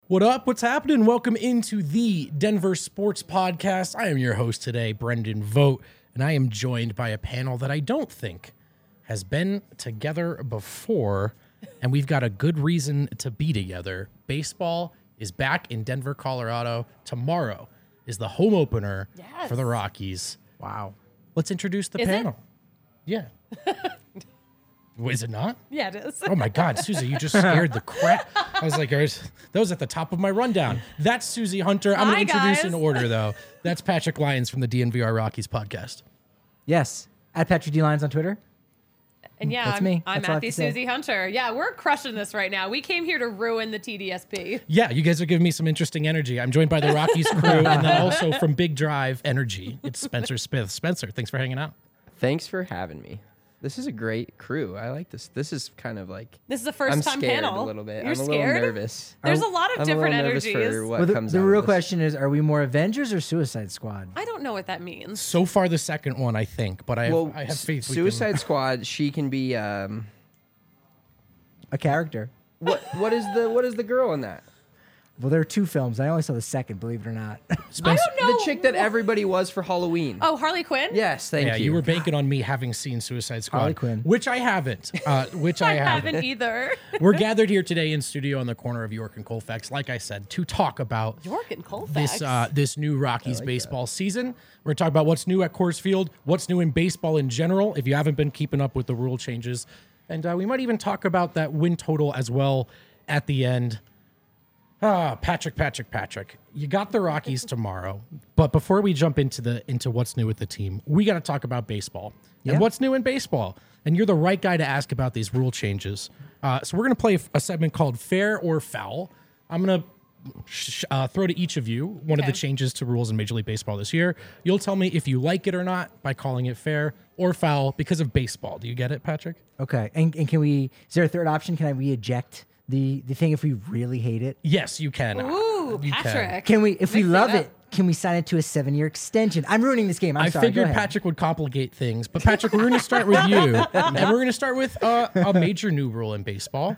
What up? What's happening? Welcome into the Denver Sports Podcast. I am your host today, Brendan Vogt, and I am joined by a panel that I don't think has been together before, and we've got a good reason to be together. Baseball is back in Denver, Colorado. Tomorrow is the home opener for the Rockies. Wow. Let's introduce the panel. Yeah. Is it not? Yeah, it is. Oh my God, Susie, you just scared the crap. I was like, that was at the top of my rundown. That's Susie Hunter. I'm going to introduce in order, though. That's Patrick Lyons from the DNVR Rockies podcast. Yes. At Patrick D. Lyons on Twitter. And yeah, That's me. I'm That's all I have Matthew to say. Susie Hunter. Yeah, we're crushing this right now. We came here to ruin the TDSP. Yeah, you guys are giving me some interesting energy. I'm joined by the Rockies crew, and then also from Big Drive Energy, it's Spencer Smith. Spencer, thanks for hanging out. Thanks for having me. This is a great crew. I like this. This is kind of like This is a first I'm time scared panel. a little bit. You're I'm a scared? little nervous. There's a lot of I'm different a little nervous energies. for what Well, comes the out real of this. question is, are we more Avengers or Suicide Squad? I don't know what that means. So far, the second one, I think, but I have faith. Suicide Squad. She can be. A character. What is the girl in that? Well, there are two films. I only saw the second, believe it or not. I don't know. The chick that everybody was for Halloween. Oh, Harley Quinn? Yes, thank Yeah, you. you were banking on me having seen Suicide Squad, Harley Quinn. which I haven't. Which I I haven't. haven't either. We're gathered here today in studio on the corner of York and Colfax, like I said, to talk about York and Colfax. this new Rockies baseball season. We're going to talk about what's new at Coors Field, what's new in baseball in general, if you haven't been keeping up with the rule changes. And we might even talk about that win total as well at the end. Patrick. You got the Rockies tomorrow. But before we jump into what's new with the team, we got to talk about baseball. Yeah. And what's new in baseball. And you're the right guy to ask about these rule changes. So we're going to play a segment called Fair or Foul. I'm going to throw to each of you one of the changes to rules in Major League Baseball this year. You'll tell me if you like it or not by calling it fair or foul because of baseball. Do you get it, Patrick? Okay. And can we, is there a third option? Can we eject the thing if we really hate it? Yes, you can. Ooh, You can. Patrick. Can we, if we Mix it love up. it, can we sign it to a 7-year extension? I'm ruining this game. I'm I sorry. Go figured ahead. Patrick would complicate things, but Patrick, we're going to start with you, and we're going to start with a major new rule in baseball,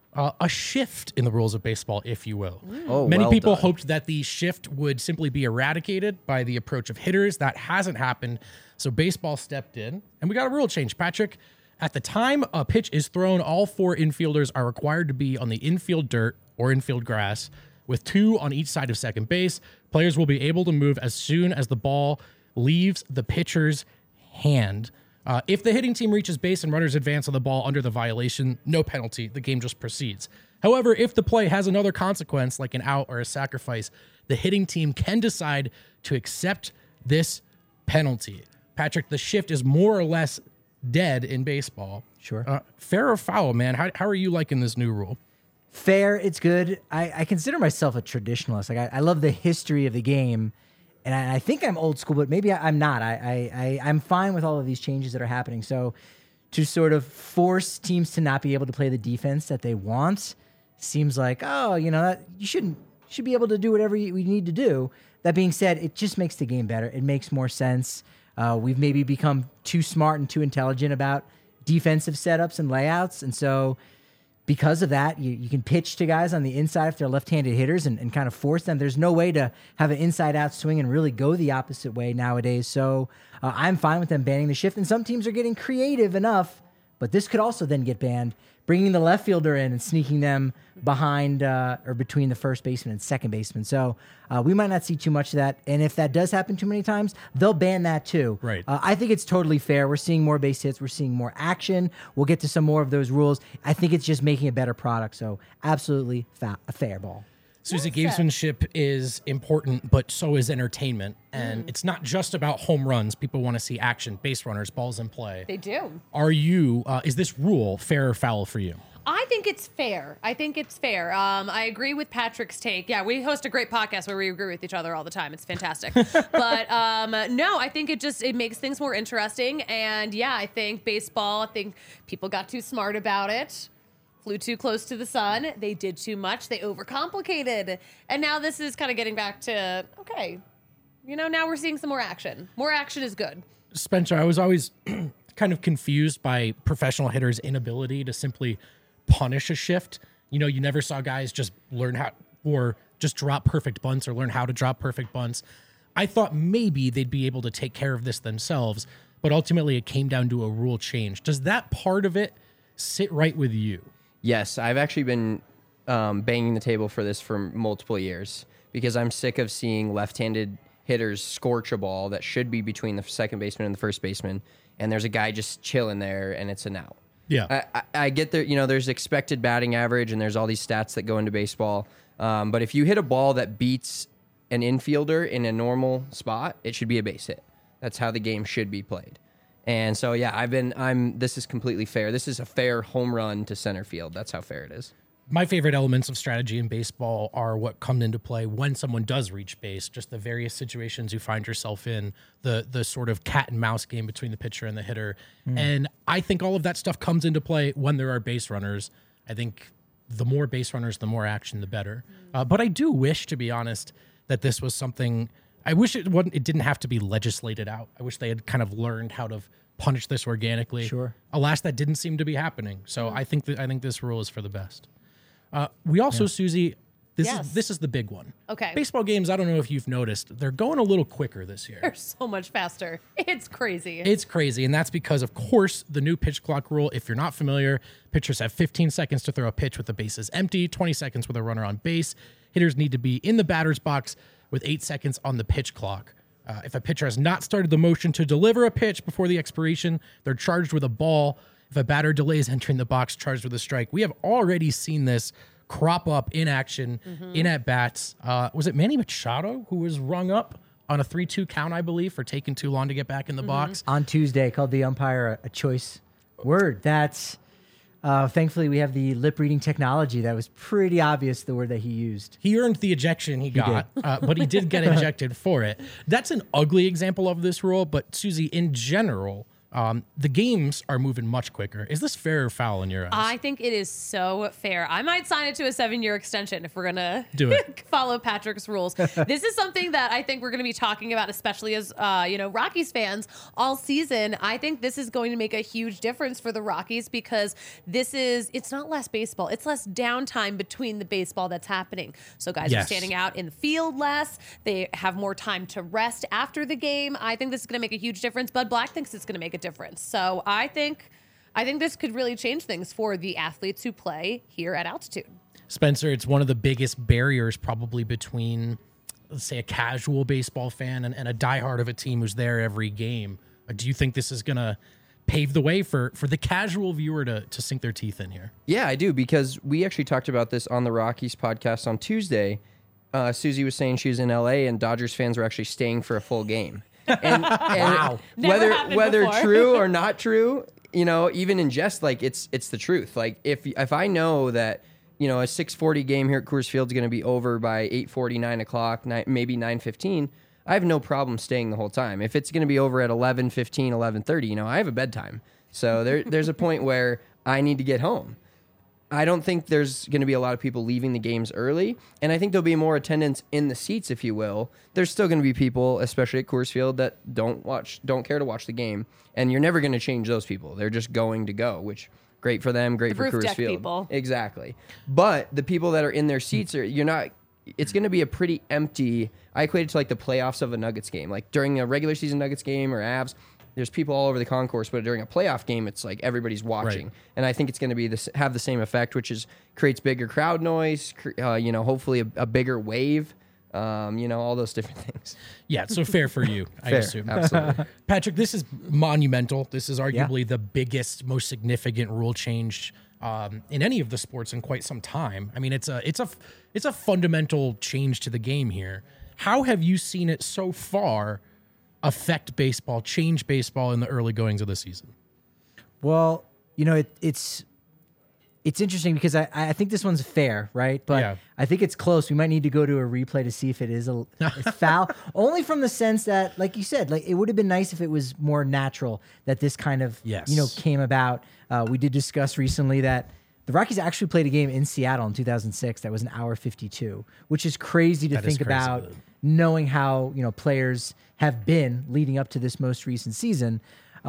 a shift in the rules of baseball, if you will. Oh, Many well people done. hoped that the shift would simply be eradicated by the approach of hitters. That hasn't happened, so baseball stepped in, and we got a rule change. Patrick, at the time a pitch is thrown, all 4 infielders are required to be on the infield dirt or infield grass, with 2 on each side of second base. Players will be able to move as soon as the ball leaves the pitcher's hand. If the hitting team reaches base and runners advance on the ball under the violation, no penalty. The game just proceeds. However, if the play has another consequence, like an out or a sacrifice, the hitting team can decide to accept this penalty. Patrick, the shift is more or less dead in baseball. Sure. Fair or foul, man? How are you liking this new rule? Fair, it's good. I consider myself a traditionalist. Like I love the history of the game, and I think I'm old school, but maybe I'm not. I'm fine with all of these changes that are happening. So to sort of force teams to not be able to play the defense that they want seems like, that you should be able to do whatever we need to do. That being said, it just makes the game better. It makes more sense. We've maybe become too smart and too intelligent about defensive setups and layouts, and so because of that, you can pitch to guys on the inside if they're left-handed hitters and kind of force them. There's no way to have an inside-out swing and really go the opposite way nowadays. So I'm fine with them banning the shift. And some teams are getting creative enough, but this could also then get banned, bringing the left fielder in and sneaking them behind or between the first baseman and second baseman. So we might not see too much of that. And if that does happen too many times, they'll ban that too. Right. I think it's totally fair. We're seeing more base hits. We're seeing more action. We'll get to some more of those rules. I think it's just making a better product. So absolutely a fair ball. Susie, gamesmanship is important, but so is entertainment. And it's not just about home runs. People want to see action, base runners, balls in play. They do. Is this rule fair or foul for you? I think it's fair. I agree with Patrick's take. Yeah, we host a great podcast where we agree with each other all the time. It's fantastic. But no, I think it makes things more interesting. And yeah, I think people got too smart about it. Flew too close to the sun. They did too much. They overcomplicated. And now this is kind of getting back to, okay, now we're seeing some more action. More action is good. Spencer, I was always kind of confused by professional hitters' inability to simply punish a shift. You never saw guys just learn how or just drop perfect bunts or learn how to drop perfect bunts. I thought maybe they'd be able to take care of this themselves, but ultimately it came down to a rule change. Does that part of it sit right with you? Yes, I've actually been banging the table for this for multiple years because I'm sick of seeing left-handed hitters scorch a ball that should be between the second baseman and the first baseman, and there's a guy just chilling there, and it's an out. Yeah. I get there. There's expected batting average, and there's all these stats that go into baseball. But if you hit a ball that beats an infielder in a normal spot, it should be a base hit. That's how the game should be played. And so, yeah, this is completely fair. This is a fair home run to center field. That's how fair it is. My favorite elements of strategy in baseball are what come into play when someone does reach base, just the various situations you find yourself in, the sort of cat and mouse game between the pitcher and the hitter. And I think all of that stuff comes into play when there are base runners. I think the more base runners, the more action, the better. But I do wish, to be honest, that this was something, I wish it didn't have to be legislated out. I wish they had kind of learned how to punish this organically. Sure. Alas, that didn't seem to be happening. So I think this rule is for the best. We also, Susie, this is the big one. Okay. Baseball games, I don't know if you've noticed, they're going a little quicker this year. They're so much faster. It's crazy. It's crazy, and that's because, of course, the new pitch clock rule. If you're not familiar, pitchers have 15 seconds to throw a pitch with the bases empty, 20 seconds with a runner on base. Hitters need to be in the batter's box with 8 seconds on the pitch clock. If a pitcher has not started the motion to deliver a pitch before the expiration, they're charged with a ball. If a batter delays entering the box, charged with a strike. We have already seen this crop up in action, in at-bats. Was it Manny Machado who was rung up on a 3-2 count, I believe, for taking too long to get back in the box? On Tuesday, called the umpire a choice word. That's thankfully we have the lip reading technology. That was pretty obvious, the word that he used. He earned the ejection he got, but he did get ejected for it. That's an ugly example of this rule, but Susie, in general, the games are moving much quicker. Is this fair or foul in your eyes? I think it is so fair. I might sign it to a 7-year extension if we're going to do it. Follow Patrick's rules. This is something that I think we're going to be talking about, especially as, Rockies fans all season. I think this is going to make a huge difference for the Rockies because it's not less baseball. It's less downtime between the baseball that's happening. So guys are standing out in the field less. They have more time to rest after the game. I think this is going to make a huge difference. Bud Black thinks it's going to make a difference. So I think this could really change things for the athletes who play here at altitude. Spencer, it's one of the biggest barriers probably between, let's say, a casual baseball fan and a diehard of a team who's there every game. Do you think this is going to pave the way for the casual viewer to sink their teeth in here? Yeah, I do, because we actually talked about this on the Rockies podcast on Tuesday. Susie was saying she was in LA and Dodgers fans were actually staying for a full game. And Wow. whether before. true or not true, even in jest, like it's the truth. Like if I know that, a 6:40 game here at Coors Field is going to be over by 8:40, 9 o'clock, maybe 9:15, I have no problem staying the whole time. If it's going to be over at 11:15, 11:30, I have a bedtime. So there's a point where I need to get home. I don't think there's going to be a lot of people leaving the games early, and I think there'll be more attendance in the seats, if you will. There's still going to be people, especially at Coors Field, that don't care to watch the game, and you're never going to change those people. They're just going to go, which great for them, great for roof Coors deck Field. people. Exactly. But the people that are in their seats it's going to be a pretty empty. I equate it to like the playoffs of a Nuggets game, like during a regular season Nuggets game or Avs. There's people all over the concourse, but during a playoff game, it's like everybody's watching. Right. And I think it's going to have the same effect, which is creates bigger crowd noise, hopefully a bigger wave, all those different things. Yeah, so fair for you, I Fair, assume. absolutely. Patrick, this is monumental. This is arguably the biggest, most significant rule change in any of the sports in quite some time. I mean, it's a fundamental change to the game here. How have you seen it so far affect baseball, change baseball in the early goings of the season? Well, it's interesting because I think this one's fair, right? But Yeah. I think it's close. We might need to go to a replay to see if it's foul. Only from the sense that, like you said, like it would have been nice if it was more natural that this kind of came about. We did discuss recently that the Rockies actually played a game in Seattle in 2006 that was an hour 52, which is crazy to That is think crazy. about, knowing how players have been leading up to this most recent season.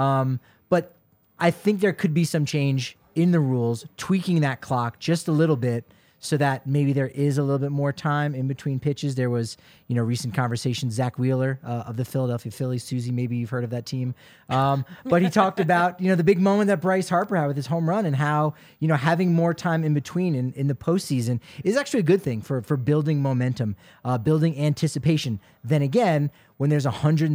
But I think there could be some change in the rules, tweaking that clock just a little bit so that maybe there is a little bit more time in between pitches. There was, recent conversation, Zach Wheeler of the Philadelphia Phillies. Susie, maybe you've heard of that team. But he talked about, the big moment that Bryce Harper had with his home run and how, having more time in between in the postseason is actually a good thing for building momentum, building anticipation. Then again, when there's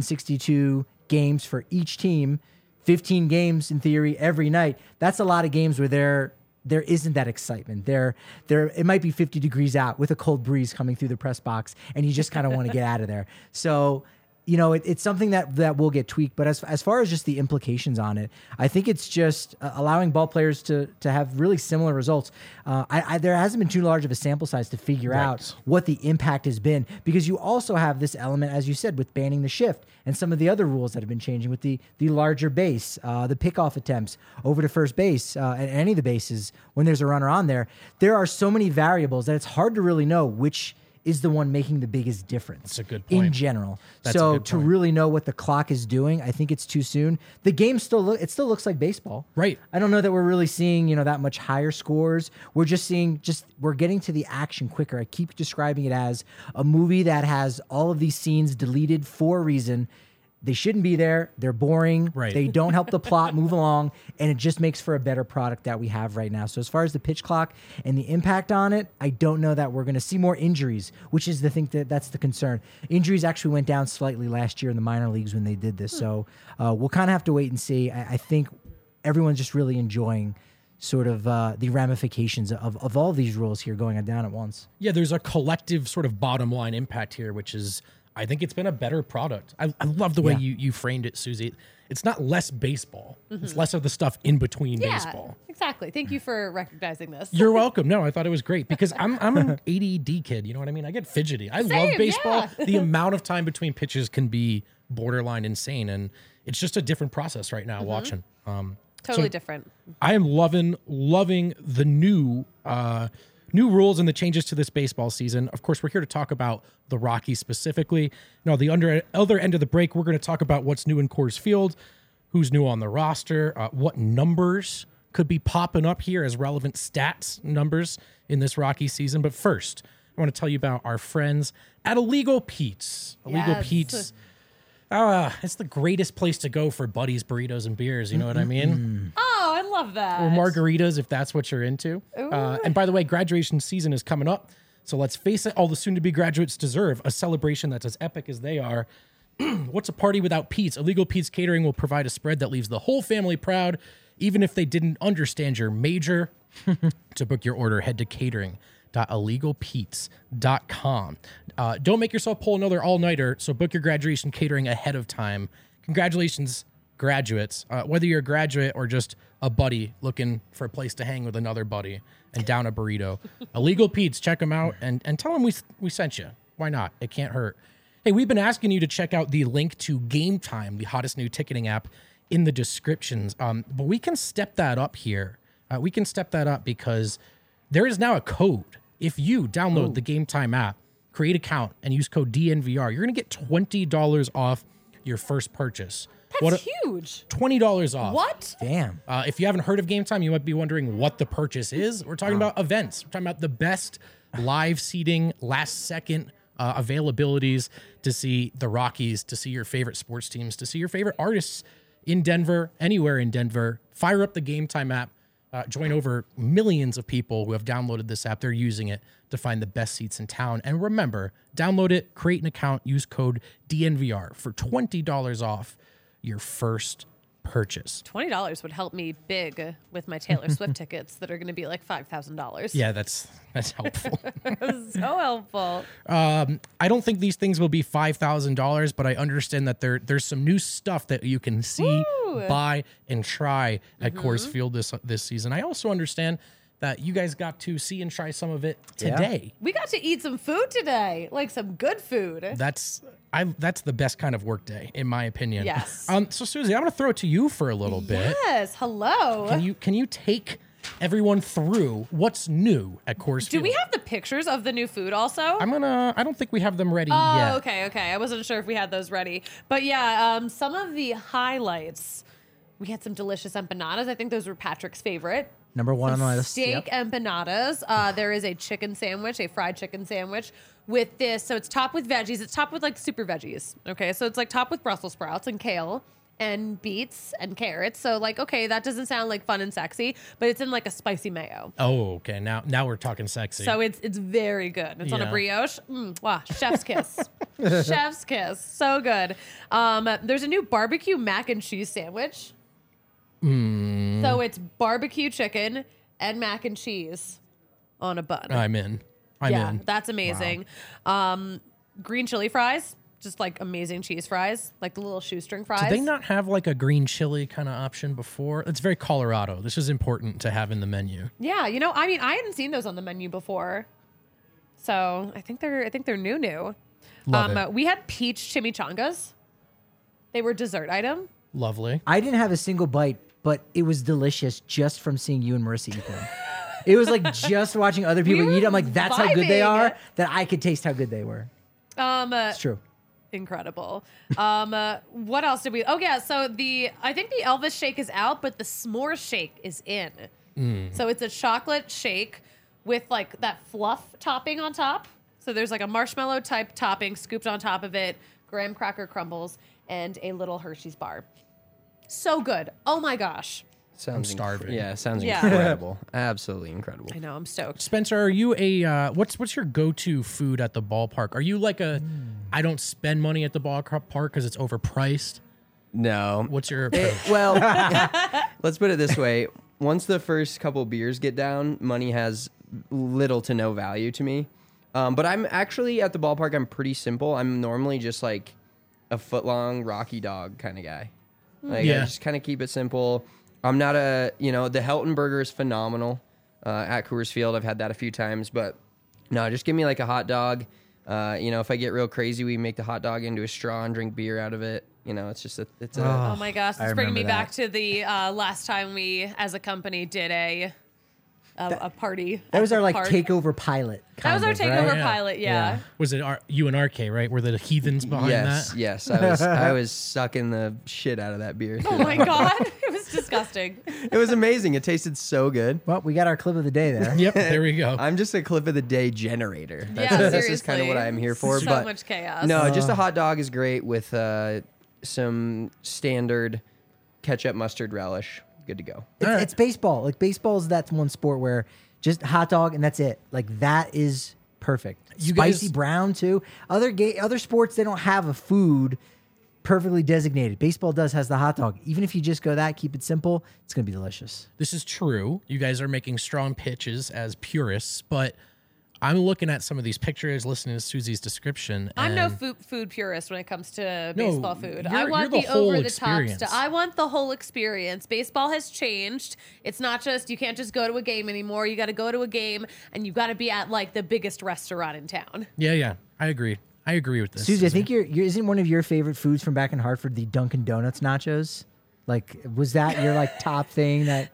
162 games for each team, 15 games in theory every night, that's a lot of games where there isn't that excitement. It might be 50 degrees out with a cold breeze coming through the press box, and you just kind of want to get out of there. So, it's something that will get tweaked. But as far as just the implications on it, I think it's just allowing ball players to have really similar results. There hasn't been too large of a sample size to figure out what the impact has been, because you also have this element, as you said, with banning the shift and some of the other rules that have been changing with the larger base, the pickoff attempts over to first base, and any of the bases when there's a runner on there. There are so many variables that it's hard to really know which is the one making the biggest difference. That's a good point. In general. That's so a good to point. really know what the clock is doing, I think it's too soon. The game still looks like baseball. Right. I don't know that we're really seeing, that much higher scores. We're just seeing we're getting to the action quicker. I keep describing it as a movie that has all of these scenes deleted for a reason. They shouldn't be there. They're boring. Right. They don't help the plot move along, and it just makes for a better product that we have right now. So as far as the pitch clock and the impact on it, I don't know that we're going to see more injuries, which is the thing that's the concern. Injuries actually went down slightly last year in the minor leagues when they did this. So we'll kind of have to wait and see. I think everyone's just really enjoying sort of the ramifications of all of these rules here going down at once. Yeah, there's a collective sort of bottom line impact here, which is, I think it's been a better product. I love the way you framed it, Susie. It's not less baseball. It's less of the stuff in between baseball. Exactly. Thank you for recognizing this. You're welcome. No, I thought it was great because I'm an ADD kid. You know what I mean? I get fidgety. I love baseball. Yeah. The amount of time between pitches can be borderline insane, and it's just a different process right now watching. Totally different. I am loving the new rules and the changes to this baseball season. Of course, we're here to talk about the Rockies specifically. No, the other end of the break, we're going to talk about what's new in Coors Field, who's new on the roster, what numbers could be popping up here as relevant stats numbers in this Rocky season. But first, I want to tell you about our friends at Illegal Pete's. Illegal Pete's. It's the greatest place to go for buddies, burritos, and beers. You know what I mean? Oh, I love that. Or margaritas, if that's what you're into. And by the way, graduation season is coming up. So let's face it, all the soon-to-be graduates deserve a celebration that's as epic as they are. What's a party without Pete's? Illegal Pete's Catering will provide a spread that leaves the whole family proud, even if they didn't understand your major. To book your order, head to catering.illegalpete's.com. Don't make yourself pull another all-nighter, so book your graduation catering ahead of time. Congratulations, graduates. Whether you're a graduate or just a buddy looking for a place to hang with another buddy and down a burrito. Illegal Pete's, check them out and tell them we sent you. Why not? It can't hurt. Hey, we've been asking you to check out the link to Game Time, the hottest new ticketing app, in the descriptions. But we can step that up here. We can step that up because there is now a code. If you download the Game Time app, create an account, and use code DNVR, you're going to get $20 off your first purchase. That's huge. $20 off. What? Damn. If you haven't heard of Game Time, you might be wondering what the purchase is. We're talking about events. We're talking about the best live seating, last second availabilities to see the Rockies, to see your favorite sports teams, to see your favorite artists in Denver, anywhere in Denver. Fire up the Game Time app. Join over millions of people who have downloaded this app. They're using it to find the best seats in town. And remember, download it, create an account, use code DNVR for $20 off your first purchase. $20 would help me big with my Taylor Swift tickets that are going to be like $5,000. Yeah, that's helpful. So helpful. I don't think these things will be $5,000, but I understand that there's some new stuff that you can see, buy, and try at Coors Field this season. I also understand that you guys got to see and try some of it today. We got to eat some food today, like some good food. That's the best kind of work day, in my opinion. Yes. So Susie, I'm going to throw it to you for a little bit. Yes. Hello. Can you take everyone through what's new at Coors Field? Do we have the pictures of the new food also? I don't think we have them ready Oh, yet. okay. I wasn't sure if we had those ready. But yeah, some of the highlights. We had some delicious empanadas. I think those were Patrick's favorite. Number one on the list. Steak Yep. empanadas. There is a chicken sandwich, a fried chicken sandwich with this. So it's topped with veggies. It's topped with like super veggies. Okay. So it's like topped with Brussels sprouts and kale and beets and carrots. So like, okay, that doesn't sound like fun and sexy, but it's in like a spicy mayo. Oh, okay. Now we're talking sexy. So it's very good. It's on a Yeah. brioche. Wow, chef's kiss. Chef's kiss. So good. There's a new barbecue mac and cheese sandwich. So it's barbecue chicken and mac and cheese on a bun. I'm in. I'm in. That's amazing. Green chili fries, just like amazing cheese fries, like the little shoestring fries. Did they not have like a green chili kind of option before? It's very Colorado. This is important to have in the menu. Yeah, you know, I mean, I hadn't seen those on the menu before, so I think they're new. Love it. We had peach chimichangas. They were dessert item. Lovely. I didn't have a single bite, but it was delicious just from seeing you and Marissa eat them. It was like just watching other people We eat. were I'm like, that's how good they vibing. are. That I could taste how good they were. It's true. Incredible. What else did we? Oh yeah, so I think the Elvis shake is out, but the s'more shake is in. So it's a chocolate shake with like that fluff topping on top. So there's like a marshmallow type topping scooped on top of it, graham cracker crumbles, and a little Hershey's bar. So good. Oh my gosh. Sounds starving. sounds Yeah. incredible. Absolutely incredible. I know. I'm stoked. Spencer, are you a what's your go-to food at the ballpark? Are you like a I don't spend money at the ballpark because it's overpriced? No. What's your approach? Well, let's put it this way. Once the first couple beers get down, money has little to no value to me. But I'm actually at the ballpark, I'm pretty simple. I'm normally just like a foot-long Rocky Dog kind of guy. Like, I Yeah. just kind of keep it simple. I'm not the Helton Burger is phenomenal at Coors Field. I've had that a few times, but no, just give me like a hot dog. If I get real crazy, we make the hot dog into a straw and drink beer out of it. It's just it's a Oh my gosh, I it's bringing me remember back to the last time we, as a company, did a party. That was our like Park. takeover pilot. That was our kind of, takeover right? Yeah. pilot. Yeah. Was it you and RK, right? Were the heathens behind yes, that? yes. I was sucking the shit out of that beer. Oh my god, it was disgusting. It was amazing. It tasted so good. Well, we got our clip of the day there. Yep, there we go. I'm just a clip of the day generator. Yeah, This is kind of what seriously. I'm here for. So but much chaos. No, just a hot dog is great with some standard ketchup, mustard, relish. Good to go. It's baseball. Like baseball's that one sport where just hot dog and that's it. Like that is perfect. You Spicy guys- brown too. Other sports they don't have a food perfectly designated. Baseball has the hot dog. Even if you just go that, keep it simple, it's gonna be delicious. This is true. You guys are making strong pitches as purists, but I'm looking at some of these pictures, listening to Susie's description. I'm no and food purist when it comes to No, baseball food. you're- I want you're the the whole over the top experience. stuff. I want the whole experience. Baseball has changed. It's not just you can't just go to a game anymore. You got to go to a game and you got to be at like the biggest restaurant in town. Yeah, I agree. I agree with this. Susie, I think isn't one of your favorite foods from back in Hartford the Dunkin' Donuts nachos? Like, was that your like top thing that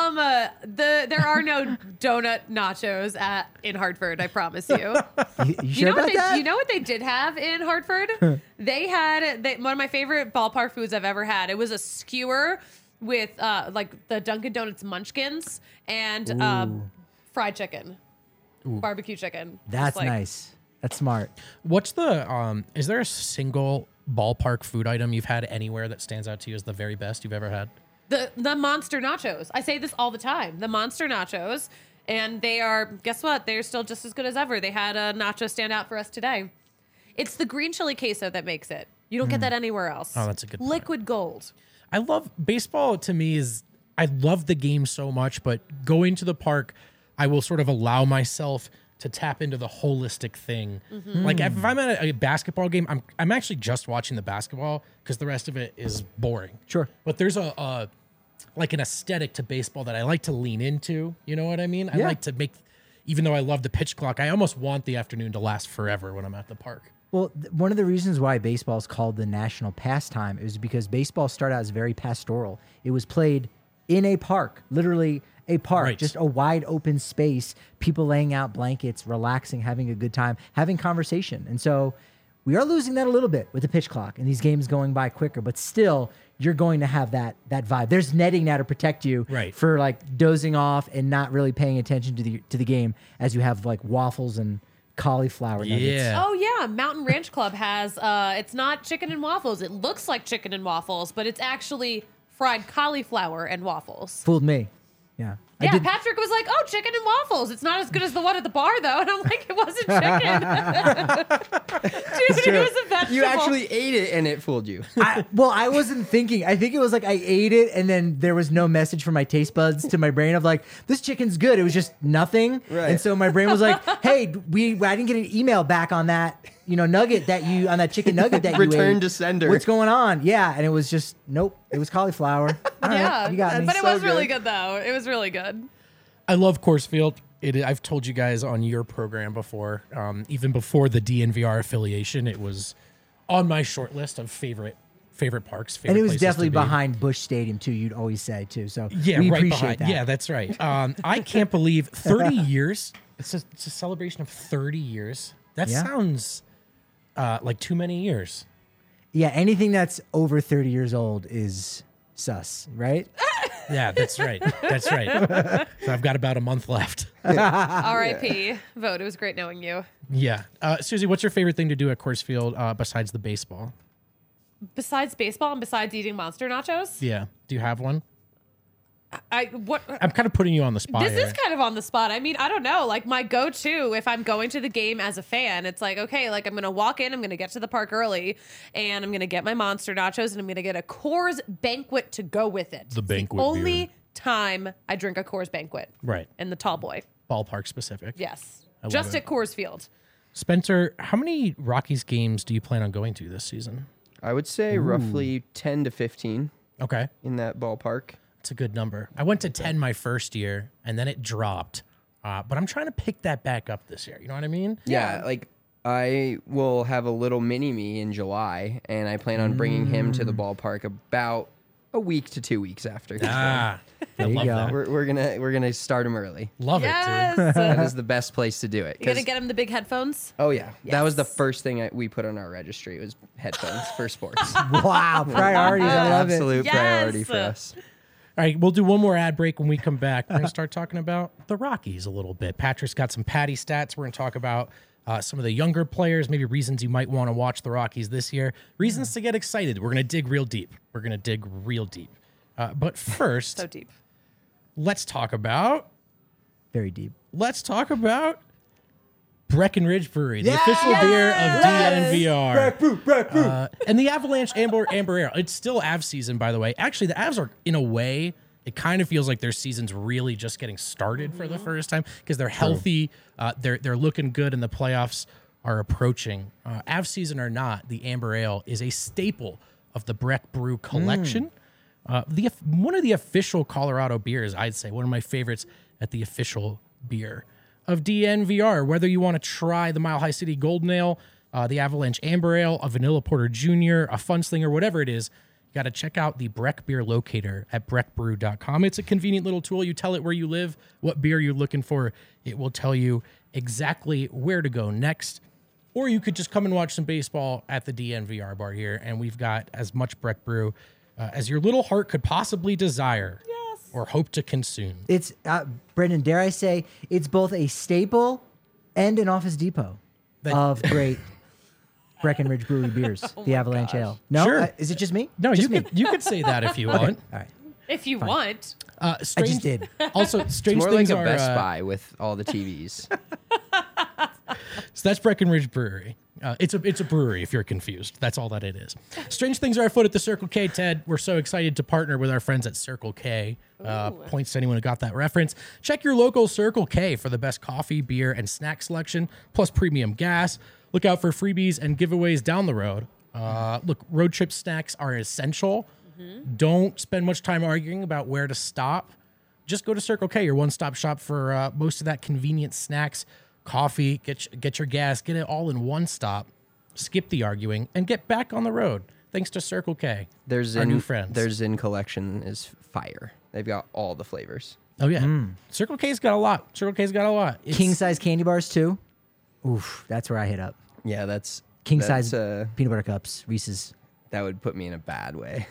There are no donut nachos in Hartford. I promise you. you You sure know about what that? you know what they did have in Hartford? They had one of my favorite ballpark foods I've ever had. It was a skewer with like the Dunkin' Donuts Munchkins and fried chicken, barbecue chicken. Just That's like- nice. That's smart. What's the is there a single ballpark food item you've had anywhere that stands out to you as the very best you've ever had? The monster nachos. I say this all the time. The monster nachos, and they are. Guess what? They're still just as good as ever. They had a nacho stand out for us today. It's the green chili queso that makes it. You don't get that anywhere else. Oh, that's a good point. Liquid gold. I love baseball. To me, I love the game so much, but going to the park, I will sort of allow myself to tap into the holistic thing. Like if I'm at a basketball game, I'm actually just watching the basketball because the rest of it is boring. Sure. But there's a like an aesthetic to baseball that I like to lean into. You know what I mean? I Yeah. like to make, even though I love the pitch clock, I almost want the afternoon to last forever when I'm at the park. Well, one of the reasons why baseball is called the national pastime is because baseball started out as very pastoral. It was played in a park, literally a park, Right. just a wide open space, people laying out blankets, relaxing, having a good time, having conversation. And so We are losing that a little bit with the pitch clock and these games going by quicker, but still you're going to have that vibe. There's netting now to protect you Right. for like dozing off and not really paying attention to the game as you have like waffles and cauliflower nuggets. Yeah. Oh yeah, Mountain Ranch Club has it's not chicken and waffles. It looks like chicken and waffles, but it's actually fried cauliflower and waffles. Fooled me. Yeah. Yeah, Patrick was like, "Oh, chicken and waffles. It's not as good as the one at the bar, though." And I'm like, "It wasn't chicken, dude. It was a vegetable." You actually ate it and it fooled you. I wasn't thinking. I think it was like I ate it and then there was no message from my taste buds to my brain of like, this chicken's good. It was just nothing. Right. And so my brain was like, hey, I didn't get an email back on that, nugget on that chicken nugget that you Return ate. to sender. What's going on? Yeah. And it was just, nope. It was cauliflower. All right, Yeah, you got me. but it So was really good. good though. It was really good. I love Coors Field. I've told you guys on your program before, even before the DNVR affiliation, it was on my short list of favorite parks. And it was places to definitely be. behind Busch Stadium too. You'd always say too. So Yeah, we right appreciate behind. that. Yeah, that's right. I can't believe 30 years. It's a celebration of 30 years. That Yeah. sounds like too many years. Yeah. Anything that's over 30 years old is sus, right? Yeah, that's right. That's right. So I've got about a month left. R.I.P. Vote. It was great knowing you. Yeah. Susie, what's your favorite thing to do at Coors Field besides the baseball? Besides baseball and besides eating monster nachos, Yeah. Do you have one? what I'm kind of putting you on the spot this here. is kind of on the spot. I mean, I don't know. Like my go-to if I'm going to the game as a fan, it's like, okay, like I'm going to walk in, I'm going to get to the park early, and I'm going to get my monster nachos, and I'm going to get a Coors Banquet to go with it. The banquet It's the only beer. time I drink a Coors Banquet. Right. And the tall boy. Ballpark specific. Yes. love Just it. at Coors Field. Spencer, how many Rockies games do you plan on going to this season? I would say roughly 10 to 15 Okay. in that ballpark. It's a good number. I went to 10 my first year, and then it dropped. But I'm trying to pick that back up this year. You know what I mean? Yeah, like I will have a little mini me in July, and I plan on bringing him to the ballpark about a week to 2 weeks after. I There you love go. that. We're gonna start him early. Love it, Yes. dude. That is the best place to do it. You gonna 'cause- get him the big headphones? Oh yeah, that was the Yes. first thing we put on our registry was headphones for sports. Wow. Priorities. I love it. Absolute Yes. priority for us. All right, we'll do one more ad break. When we come back, we're going to start talking about the Rockies a little bit. Patrick's got some Patty stats. We're going to talk about some of the younger players, maybe reasons you might want to watch the Rockies this year, reasons to get excited. We're going to dig real deep. We're going to dig real deep. But first, So deep. let's talk about Very deep. Breckenridge Brewery, the Yes! official beer of DNVR. Brew. And the Avalanche Amber Ale. It's still Avs season, by the way. Actually, the Avs are, in a way, it kind of feels like their season's really just getting started for the first time because they're healthy. They're looking good, and the playoffs are approaching. Avs season or not, the Amber Ale is a staple of the Breck Brew collection. One of the official Colorado beers, I'd say, one of my favorites at the official beer of DNVR. Whether you want to try the Mile High City Golden Ale, the Avalanche Amber Ale, a Vanilla Porter Jr., a Fun Slinger, whatever it is, you got to check out the Breck Beer Locator at breckbrew.com. It's a convenient little tool. You tell it where you live, what beer you're looking for. It will tell you exactly where to go next. Or you could just come and watch some baseball at the DNVR bar here, and we've got as much Breck Brew as your little heart could possibly desire or hope to consume. It's, Brendan, dare I say, it's both a staple and an Office Depot of great Breckenridge Brewery beers, the Avalanche Ale. No? Sure. Is it just me? No, just you could say that if you want. All right. If you want. Strange, I just did. Also, strange More like things a are. Best Buy with all the TVs. So that's Breckenridge Brewery. It's a brewery if you're confused. That's all that it is. Strange things are afoot at the Circle K, Ted. We're so excited to partner with our friends at Circle K. Points to anyone who got that reference. Check your local Circle K for the best coffee, beer, and snack selection, plus premium gas. Look out for freebies and giveaways down the road. Look, road trip snacks are essential. Don't spend much time arguing about where to stop. Just go to Circle K, your one-stop shop for most of that convenient snacks, coffee, get your gas, get it all in one stop. Skip the arguing and get back on the road. Thanks to Circle K, our new friends. Their Zin collection is fire. They've got all the flavors. Oh yeah, Circle K's got a lot. Circle K's got a lot. It's- King size candy bars, too. Oof, that's where I hit up. Yeah, that's king size That's, peanut butter cups, Reese's. That would put me in a bad way.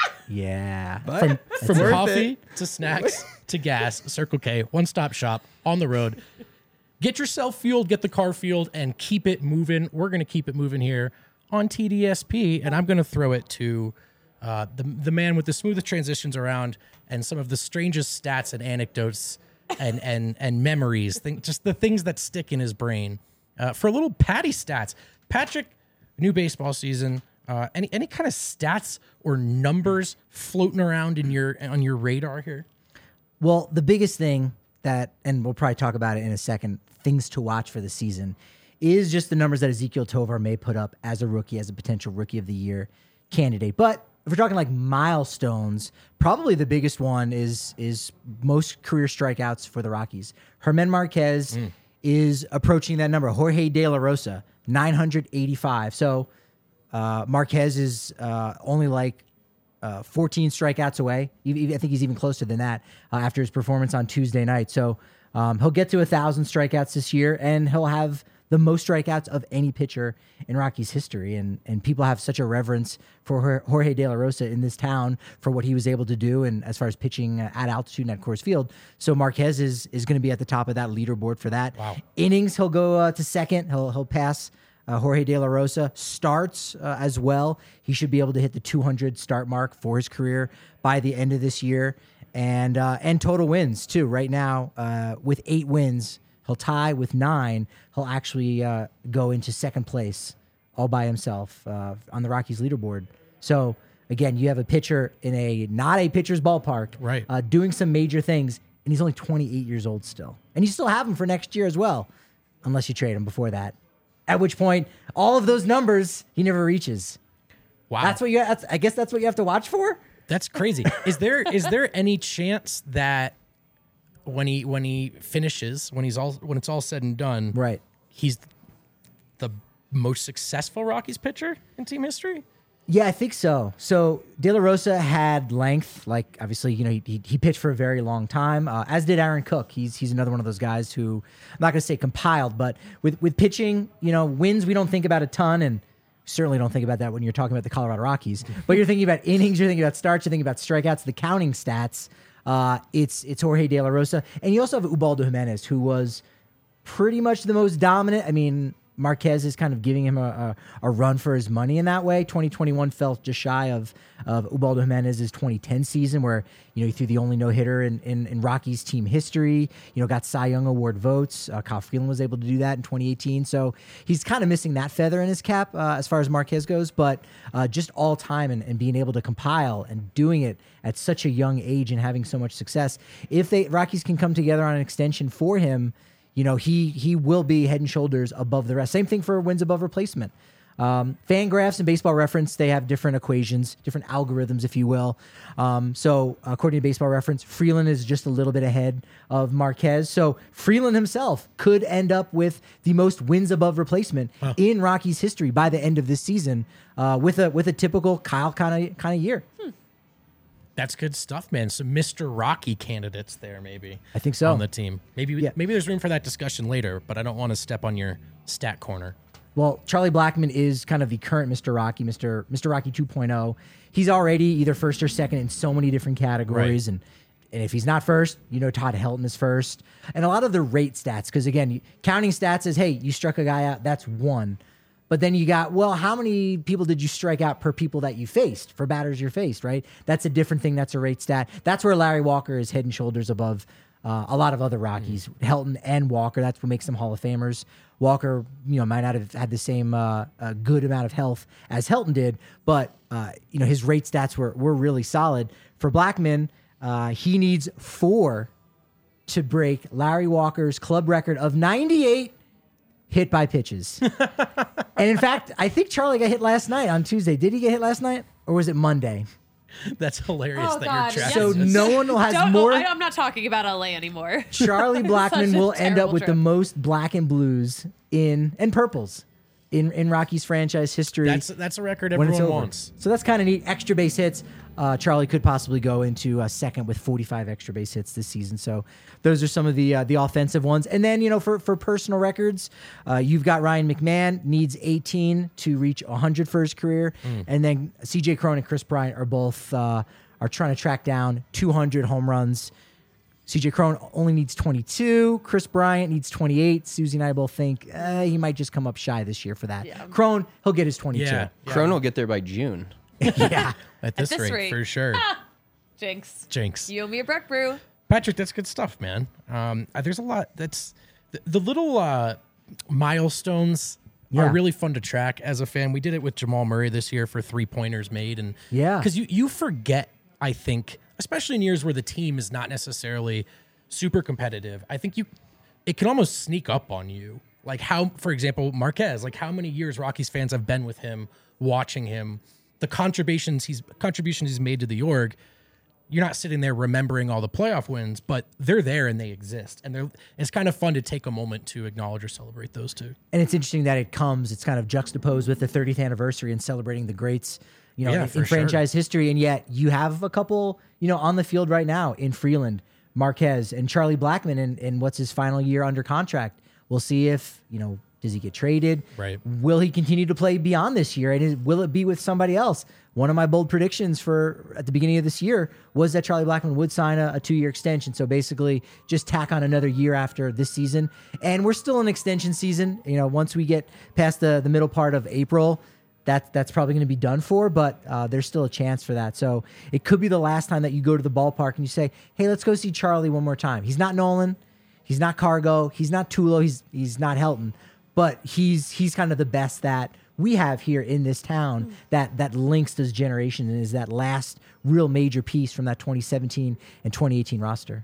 Yeah. But From worth coffee it. to snacks to gas, Circle K, one-stop shop on the road. Get yourself fueled, get the car fueled, and keep it moving. We're going to keep it moving here on TDSP, and I'm going to throw it to the man with the smoothest transitions around and some of the strangest stats and anecdotes and memories, just the things that stick in his brain. For a little Patty stats, Patrick, new baseball season. Any kind of stats or numbers floating around on your radar here? Well, the biggest thing that, and we'll probably talk about it in a second, things to watch for the season, is just the numbers that Ezekiel Tovar may put up as a rookie, as a potential rookie of the year candidate. But if we're talking like milestones, probably the biggest one is most career strikeouts for the Rockies. Germán Marquez is approaching that number. Jorge De La Rosa, 985. So Marquez is only like 14 strikeouts away. I think he's even closer than that after his performance on Tuesday night. So he'll get to 1,000 strikeouts this year, and he'll have the most strikeouts of any pitcher in Rockies history. And people have such a reverence for Jorge De La Rosa in this town for what he was able to do, and as far as pitching at altitude and at Coors Field. So Marquez is going to be at the top of that leaderboard for that. Wow. Innings, he'll go to second. He'll pass Jorge De La Rosa. Starts as well. He should be able to hit the 200 start mark for his career by the end of this year. And total wins, too. Right now, with 8 wins, he'll tie with 9. He'll actually go into second place all by himself on the Rockies leaderboard. So, again, you have a pitcher in not a pitcher's ballpark, Right. Doing some major things, and he's only 28 years old still. And you still have him for next year as well, unless you trade him before that. At which point, all of those numbers he never reaches. Wow, I guess that's what you have to watch for. that's crazy. Is there any chance that when he finishes, when it's all said and done, Right. he's the most successful Rockies pitcher in team history? Yeah, I think so. So De La Rosa had length, like obviously, he pitched for a very long time, as did Aaron Cook. He's another one of those guys who, I'm not going to say compiled, but with pitching, wins we don't think about a ton, and certainly don't think about that when you're talking about the Colorado Rockies. But you're thinking about innings, you're thinking about starts, you're thinking about strikeouts, the counting stats. It's Jorge De La Rosa, and you also have Ubaldo Jimenez, who was pretty much the most dominant. I mean, Marquez is kind of giving him a run for his money in that way. 2021 fell just shy of Ubaldo Jimenez's 2010 season, where he threw the only no-hitter in Rockies team history. Got Cy Young Award votes. Kyle Freeland was able to do that in 2018. So he's kind of missing that feather in his cap as far as Marquez goes. But just all time and being able to compile and doing it at such a young age and having so much success, if Rockies can come together on an extension for him, he will be head and shoulders above the rest. Same thing for wins above replacement. Fangraphs and Baseball Reference, they have different equations, different algorithms, if you will. So according to Baseball Reference, Freeland is just a little bit ahead of Marquez. So Freeland himself could end up with the most wins above replacement in Rockies history by the end of this season, with a typical Kyle kind of year. That's good stuff, man. Some Mr. Rocky candidates there, maybe. I think so. On the team. Maybe there's room for that discussion later, but I don't want to step on your stat corner. Well, Charlie Blackmon is kind of the current Mr. Rocky, Mr. Rocky 2.0. He's already either first or second in so many different categories. Right. And if he's not first, Todd Helton is first. And a lot of the rate stats, because again, counting stats is, hey, you struck a guy out, that's 1. But then you got, well, how many people did you strike out per people that you faced, for batters you faced, right? That's a different thing. That's a rate stat. That's where Larry Walker is head and shoulders above a lot of other Rockies, Helton and Walker. That's what makes them Hall of Famers. Walker, might not have had the same good amount of health as Helton did, but, his rate stats were really solid. For Blackmon, he needs 4 to break Larry Walker's club record of 98 hit by pitches. And in fact, I think Charlie got hit last night on Tuesday. Did he get hit last night? Or was it Monday? That's hilarious Oh, that God. you're Yes. tracking So this. no one has more. I'm not talking about LA anymore. Charlie Blackmon Such a will end up terrible with the joke. most black and blues and purples in Rockies franchise history. That's a record when it's everyone over. wants. So that's kind of neat. Extra base hits. Charlie could possibly go into second with 45 extra base hits this season. So those are some of the offensive ones. And then, for personal records, you've got Ryan McMahon needs 18 to reach 100 for his career. And then CJ Cron and Chris Bryant are both are trying to track down 200 home runs. CJ Cron only needs 22. Chris Bryant needs 28. Susie and I both think he might just come up shy this year for that. Yeah. Cron, he'll get his 22. Yeah. Cron will get there by June. Yeah. At this this rate, rate. for sure. Jinx. You owe me a Breck Brew. Patrick, that's good stuff, man. There's a lot. That's the little milestones Yeah. are really fun to track as a fan. We did it with Jamal Murray this year for 3-pointers made, and Yeah. because you forget, I think, especially in years where the team is not necessarily super competitive. I think it can almost sneak up on you. Like how, for example, Marquez. Like how many years Rockies fans have been with him, watching him, the contributions he's made to the org. You're not sitting there remembering all the playoff wins, but they're there and they exist. And it's kind of fun to take a moment to acknowledge or celebrate those two. And it's interesting that it's kind of juxtaposed with the 30th anniversary and celebrating the greats, Yeah, in for franchise history. And yet you have a couple, on the field right now in Freeland, Marquez, and Charlie Blackmon in what's his final year under contract. We'll see if, does he get traded? Right. Will he continue to play beyond this year? And will it be with somebody else? One of my bold predictions at the beginning of this year was that Charlie Blackmon would sign a 2-year extension. So basically just tack on another year after this season. And we're still in extension season. Once we get past the middle part of April, that's probably going to be done for, but there's still a chance for that. So it could be the last time that you go to the ballpark and you say, hey, let's go see Charlie one more time. He's not Nolan. He's not Cargo. He's not Tulo. He's not Helton. But he's kind of the best that we have here in this town that links this generation and is that last real major piece from that 2017 and 2018 roster.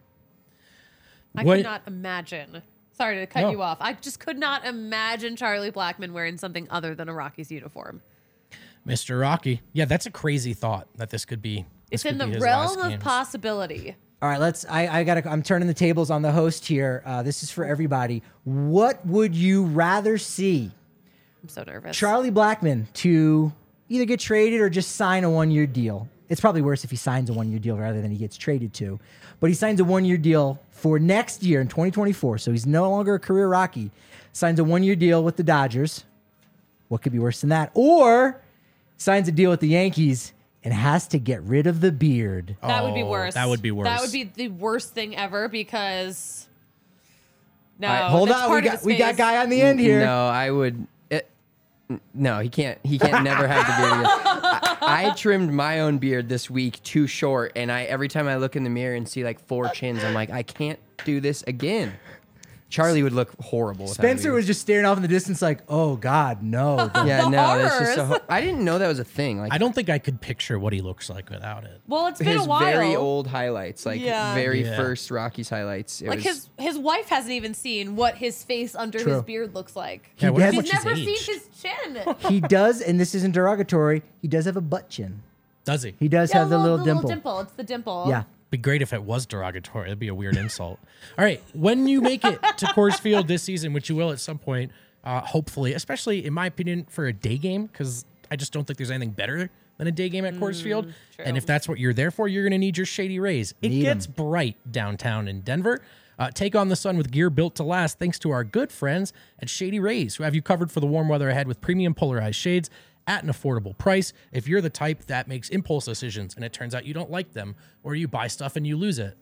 I could not imagine. Sorry to cut you off. I just could not imagine Charlie Blackmon wearing something other than a Rockies uniform. Mr. Rocky. Yeah, that's a crazy thought that this could be. It's in the realm of possibility. All right, I'm turning the tables on the host here. This is for everybody. What would you rather see? I'm so nervous. Charlie Blackmon to either get traded or just sign a 1-year deal. It's probably worse if he signs a 1-year deal rather than he gets traded to. But he signs a 1-year deal for next year in 2024. So he's no longer a career Rocky. Signs a 1-year deal with the Dodgers. What could be worse than that? Or signs a deal with the Yankees and has to get rid of the beard. That would be worse. That would be worse. That would be the worst thing ever because no. Hold that's on, part of his we got face. guy on the end here. No, I would. No, he can't. He can't never have the beard again. I trimmed my own beard this week too short, and every time I look in the mirror and see like 4 chins, I'm like, I can't do this again. Charlie would look horrible. without a Spencer beard. was just staring off in the distance like, oh, God, no. Yeah, The no, that's just horrors. I didn't know that was a thing. Like I don't think I could picture what he looks like without it. Well, it's been his a while. very old highlights, like Yeah. very Yeah. first Rockies highlights. It Like was, his wife hasn't even seen what his face under True. his beard looks like. Yeah, I wonder has- how He's much never he's seen aged. his chin. He does, and this isn't derogatory, he does have a butt chin. Does he? He does have the little dimple. It's the dimple. Yeah. Be great if it was derogatory. That'd be a weird insult. All right, when you make it to Coors Field this season, which you will at some point, hopefully, especially in my opinion for a day game, because I just don't think there's anything better than a day game at Coors Field. true. And if that's what you're there for, you're going to need your Shady Rays. It Need 'em. gets bright downtown in Denver. Take on the sun with gear built to last, thanks to our good friends at Shady Rays, who have you covered for the warm weather ahead with premium polarized shades at an affordable price. If you're the type that makes impulse decisions and it turns out you don't like them, or you buy stuff and you lose it.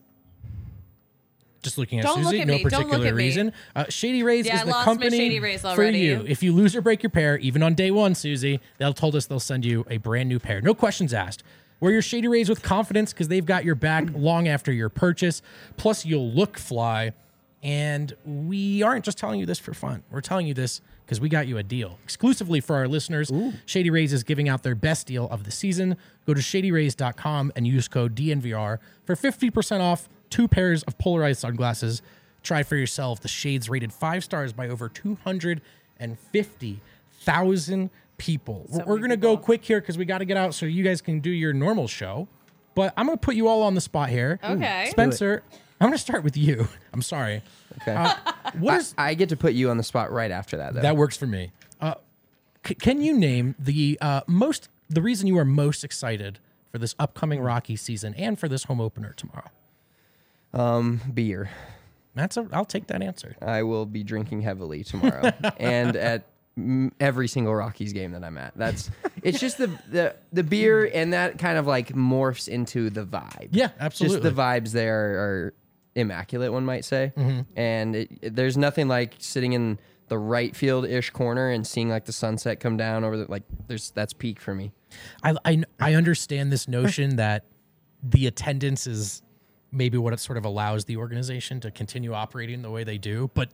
Just looking at Don't look Susie, at no me. Don't look particular at me. reason. Shady Rays Yeah, is I the lost my company Shady Rays for already. you. If you lose or break your pair, even on day one, Susie, they'll told us they'll send you a brand new pair. No questions asked. Wear your Shady Rays with confidence because they've got your back long after your purchase. Plus, you'll look fly. And we aren't just telling you this for fun. We're telling you this because we got you a deal. Exclusively for our listeners, Shady Rays is giving out their best deal of the season. Go to shadyrays.com and use code DNVR for 50% off 2 pairs of polarized sunglasses. Try for yourself. The shades rated 5 stars by over 250,000 people. We're going to go quick here because we got to get out so you guys can do your normal show. But I'm going to put you all on the spot here. Okay. Spencer, I'm going to start with you. I'm sorry. okay. What is I get to put you on the spot right after that, though. that works for me. Can you name the reason you are most excited for this upcoming Rocky season and for this home opener tomorrow? Beer. I'll take that answer. I will be drinking heavily tomorrow and at every single Rockies game that I'm at. It's just the beer, and that kind of like morphs into the vibe. Yeah, absolutely. Just the vibes there are immaculate, one might say. And there's nothing like sitting in the right field-ish corner and seeing like the sunset come down over that's peak for me. I understand this notion that the attendance is maybe what it sort of allows the organization to continue operating the way they do, but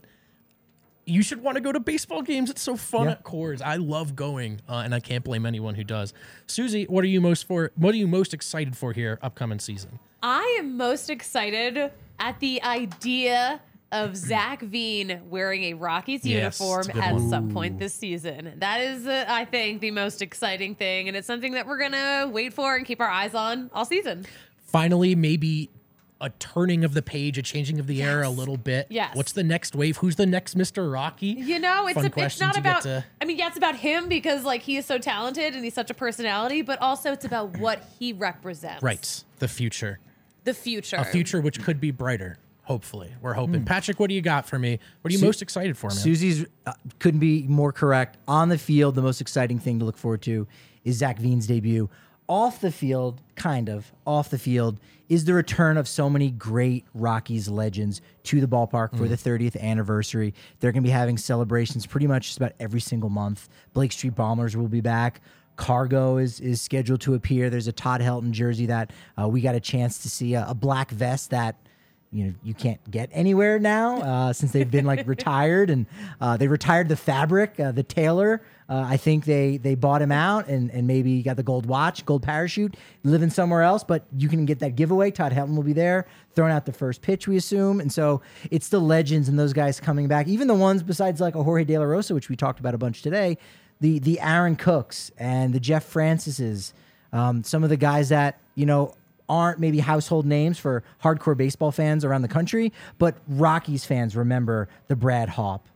you should want to go to baseball games. It's so fun at Coors. I love going, and I can't blame anyone who does. Susie, what are you most excited for here upcoming season? I am most excited at the idea of Zach Veen wearing a Rockies uniform it's a good at one. some point this season. That is, I think, the most exciting thing, and it's something that we're going to wait for and keep our eyes on all season. Finally, maybe a turning of the page, a changing of the era a little bit. Yes. What's the next wave? Who's the next Mr. Rocky? You know, it's Fun it's question not to get about. to- I mean, yeah, it's about him because like he is so talented and he's such a personality, but also it's about what he represents. Right. The future. The future. A future which could be brighter. Hopefully. We're hoping. Patrick, what do you got for me? What are you most excited for, man? Susie's couldn't be more correct. On the field, the most exciting thing to look forward to is Zach Veen's debut. Off the field, off the field, is the return of so many great Rockies legends to the ballpark for the 30th anniversary. They're going to be having celebrations pretty much just about every single month. Blake Street Bombers will be back. Cargo is scheduled to appear. There's a Todd Helton jersey that we got a chance to see, a black vest that you can't get anywhere now since they've been like retired, and they retired the fabric, the tailor. I think they bought him out and maybe got the gold watch, gold parachute, living somewhere else, but you can get that giveaway. Todd Helton will be there throwing out the first pitch, we assume. And so it's the legends and those guys coming back, even the ones besides like a Jorge De La Rosa, which we talked about a bunch today, the Aaron Cooks and the Jeff Francises, some of the guys that, aren't maybe household names for hardcore baseball fans around the country, but Rockies fans remember the Brad Hawpe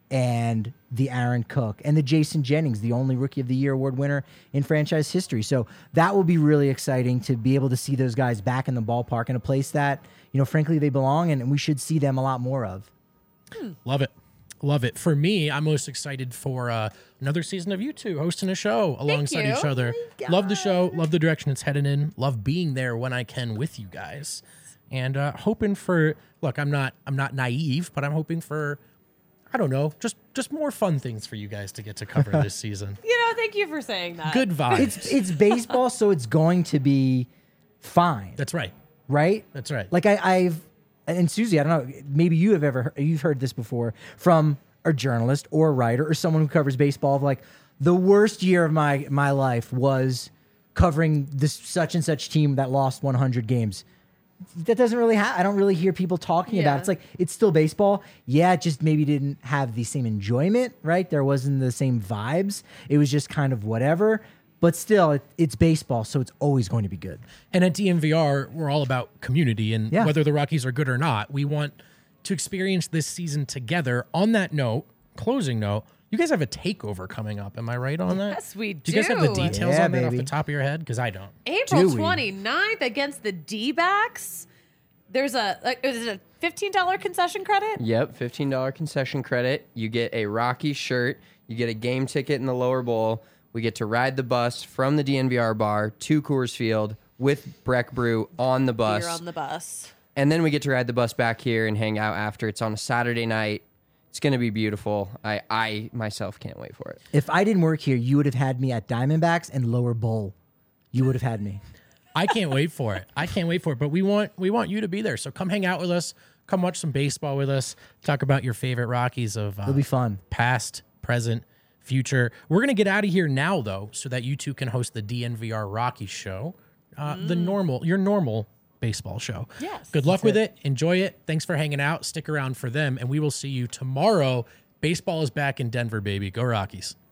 and the Aaron Cook and the Jason Jennings, the only Rookie of the Year award winner in franchise history. So that will be really exciting to be able to see those guys back in the ballpark in a place that, frankly, they belong, and we should see them a lot more of. Love it. Love it. For me, I'm most excited for another season of you two hosting a show alongside you. each other. Love the show. Love the direction it's headed in. Love being there when I can with you guys. And hoping for, look, I'm not naive, but I'm hoping for, I don't know, just more fun things for you guys to get to cover this season. Thank you for saying that. Good vibes. It's baseball, so it's going to be fine. That's right. Right? That's right. Like I've and Susie, I don't know, maybe you've heard this before from a journalist or a writer or someone who covers baseball of like, the worst year of my life was covering this such and such team that lost 100 games. That doesn't really I don't really hear people talking about it. It's like, it's still baseball. Yeah, it just maybe didn't have the same enjoyment, right? There wasn't the same vibes. It was just kind of whatever. But still, it's baseball, so it's always going to be good. And at DNVR, we're all about community, and whether the Rockies are good or not, we want to experience this season together. On that note, closing note, you guys have a takeover coming up. Am I right on that? Yes, we Do you guys have the details Yeah, on that off baby. the top of your head? Because I don't. April Do we? 29th against the D-backs. There's is it a $15 concession credit? Yep, $15 concession credit. You get a Rocky shirt. You get a game ticket in the lower bowl. We get to ride the bus from the DNVR bar to Coors Field with Breck Brew on the bus. You're on the bus. And then we get to ride the bus back here and hang out after. It's on a Saturday night. It's going to be beautiful. I myself can't wait for it. If I didn't work here, you would have had me at Diamondbacks and Lower Bowl. You would have had me. I can't wait for it. I can't wait for it. But we want you to be there. So come hang out with us. Come watch some baseball with us. Talk about your favorite Rockies of It'll be fun. past, present, future. We're going to get out of here now, though, so that you two can host the DNVR Rockies show, your normal baseball show. Yes. Good luck with it. Enjoy it. Thanks for hanging out. Stick around for them, and we will see you tomorrow. Baseball is back in Denver, baby. Go Rockies.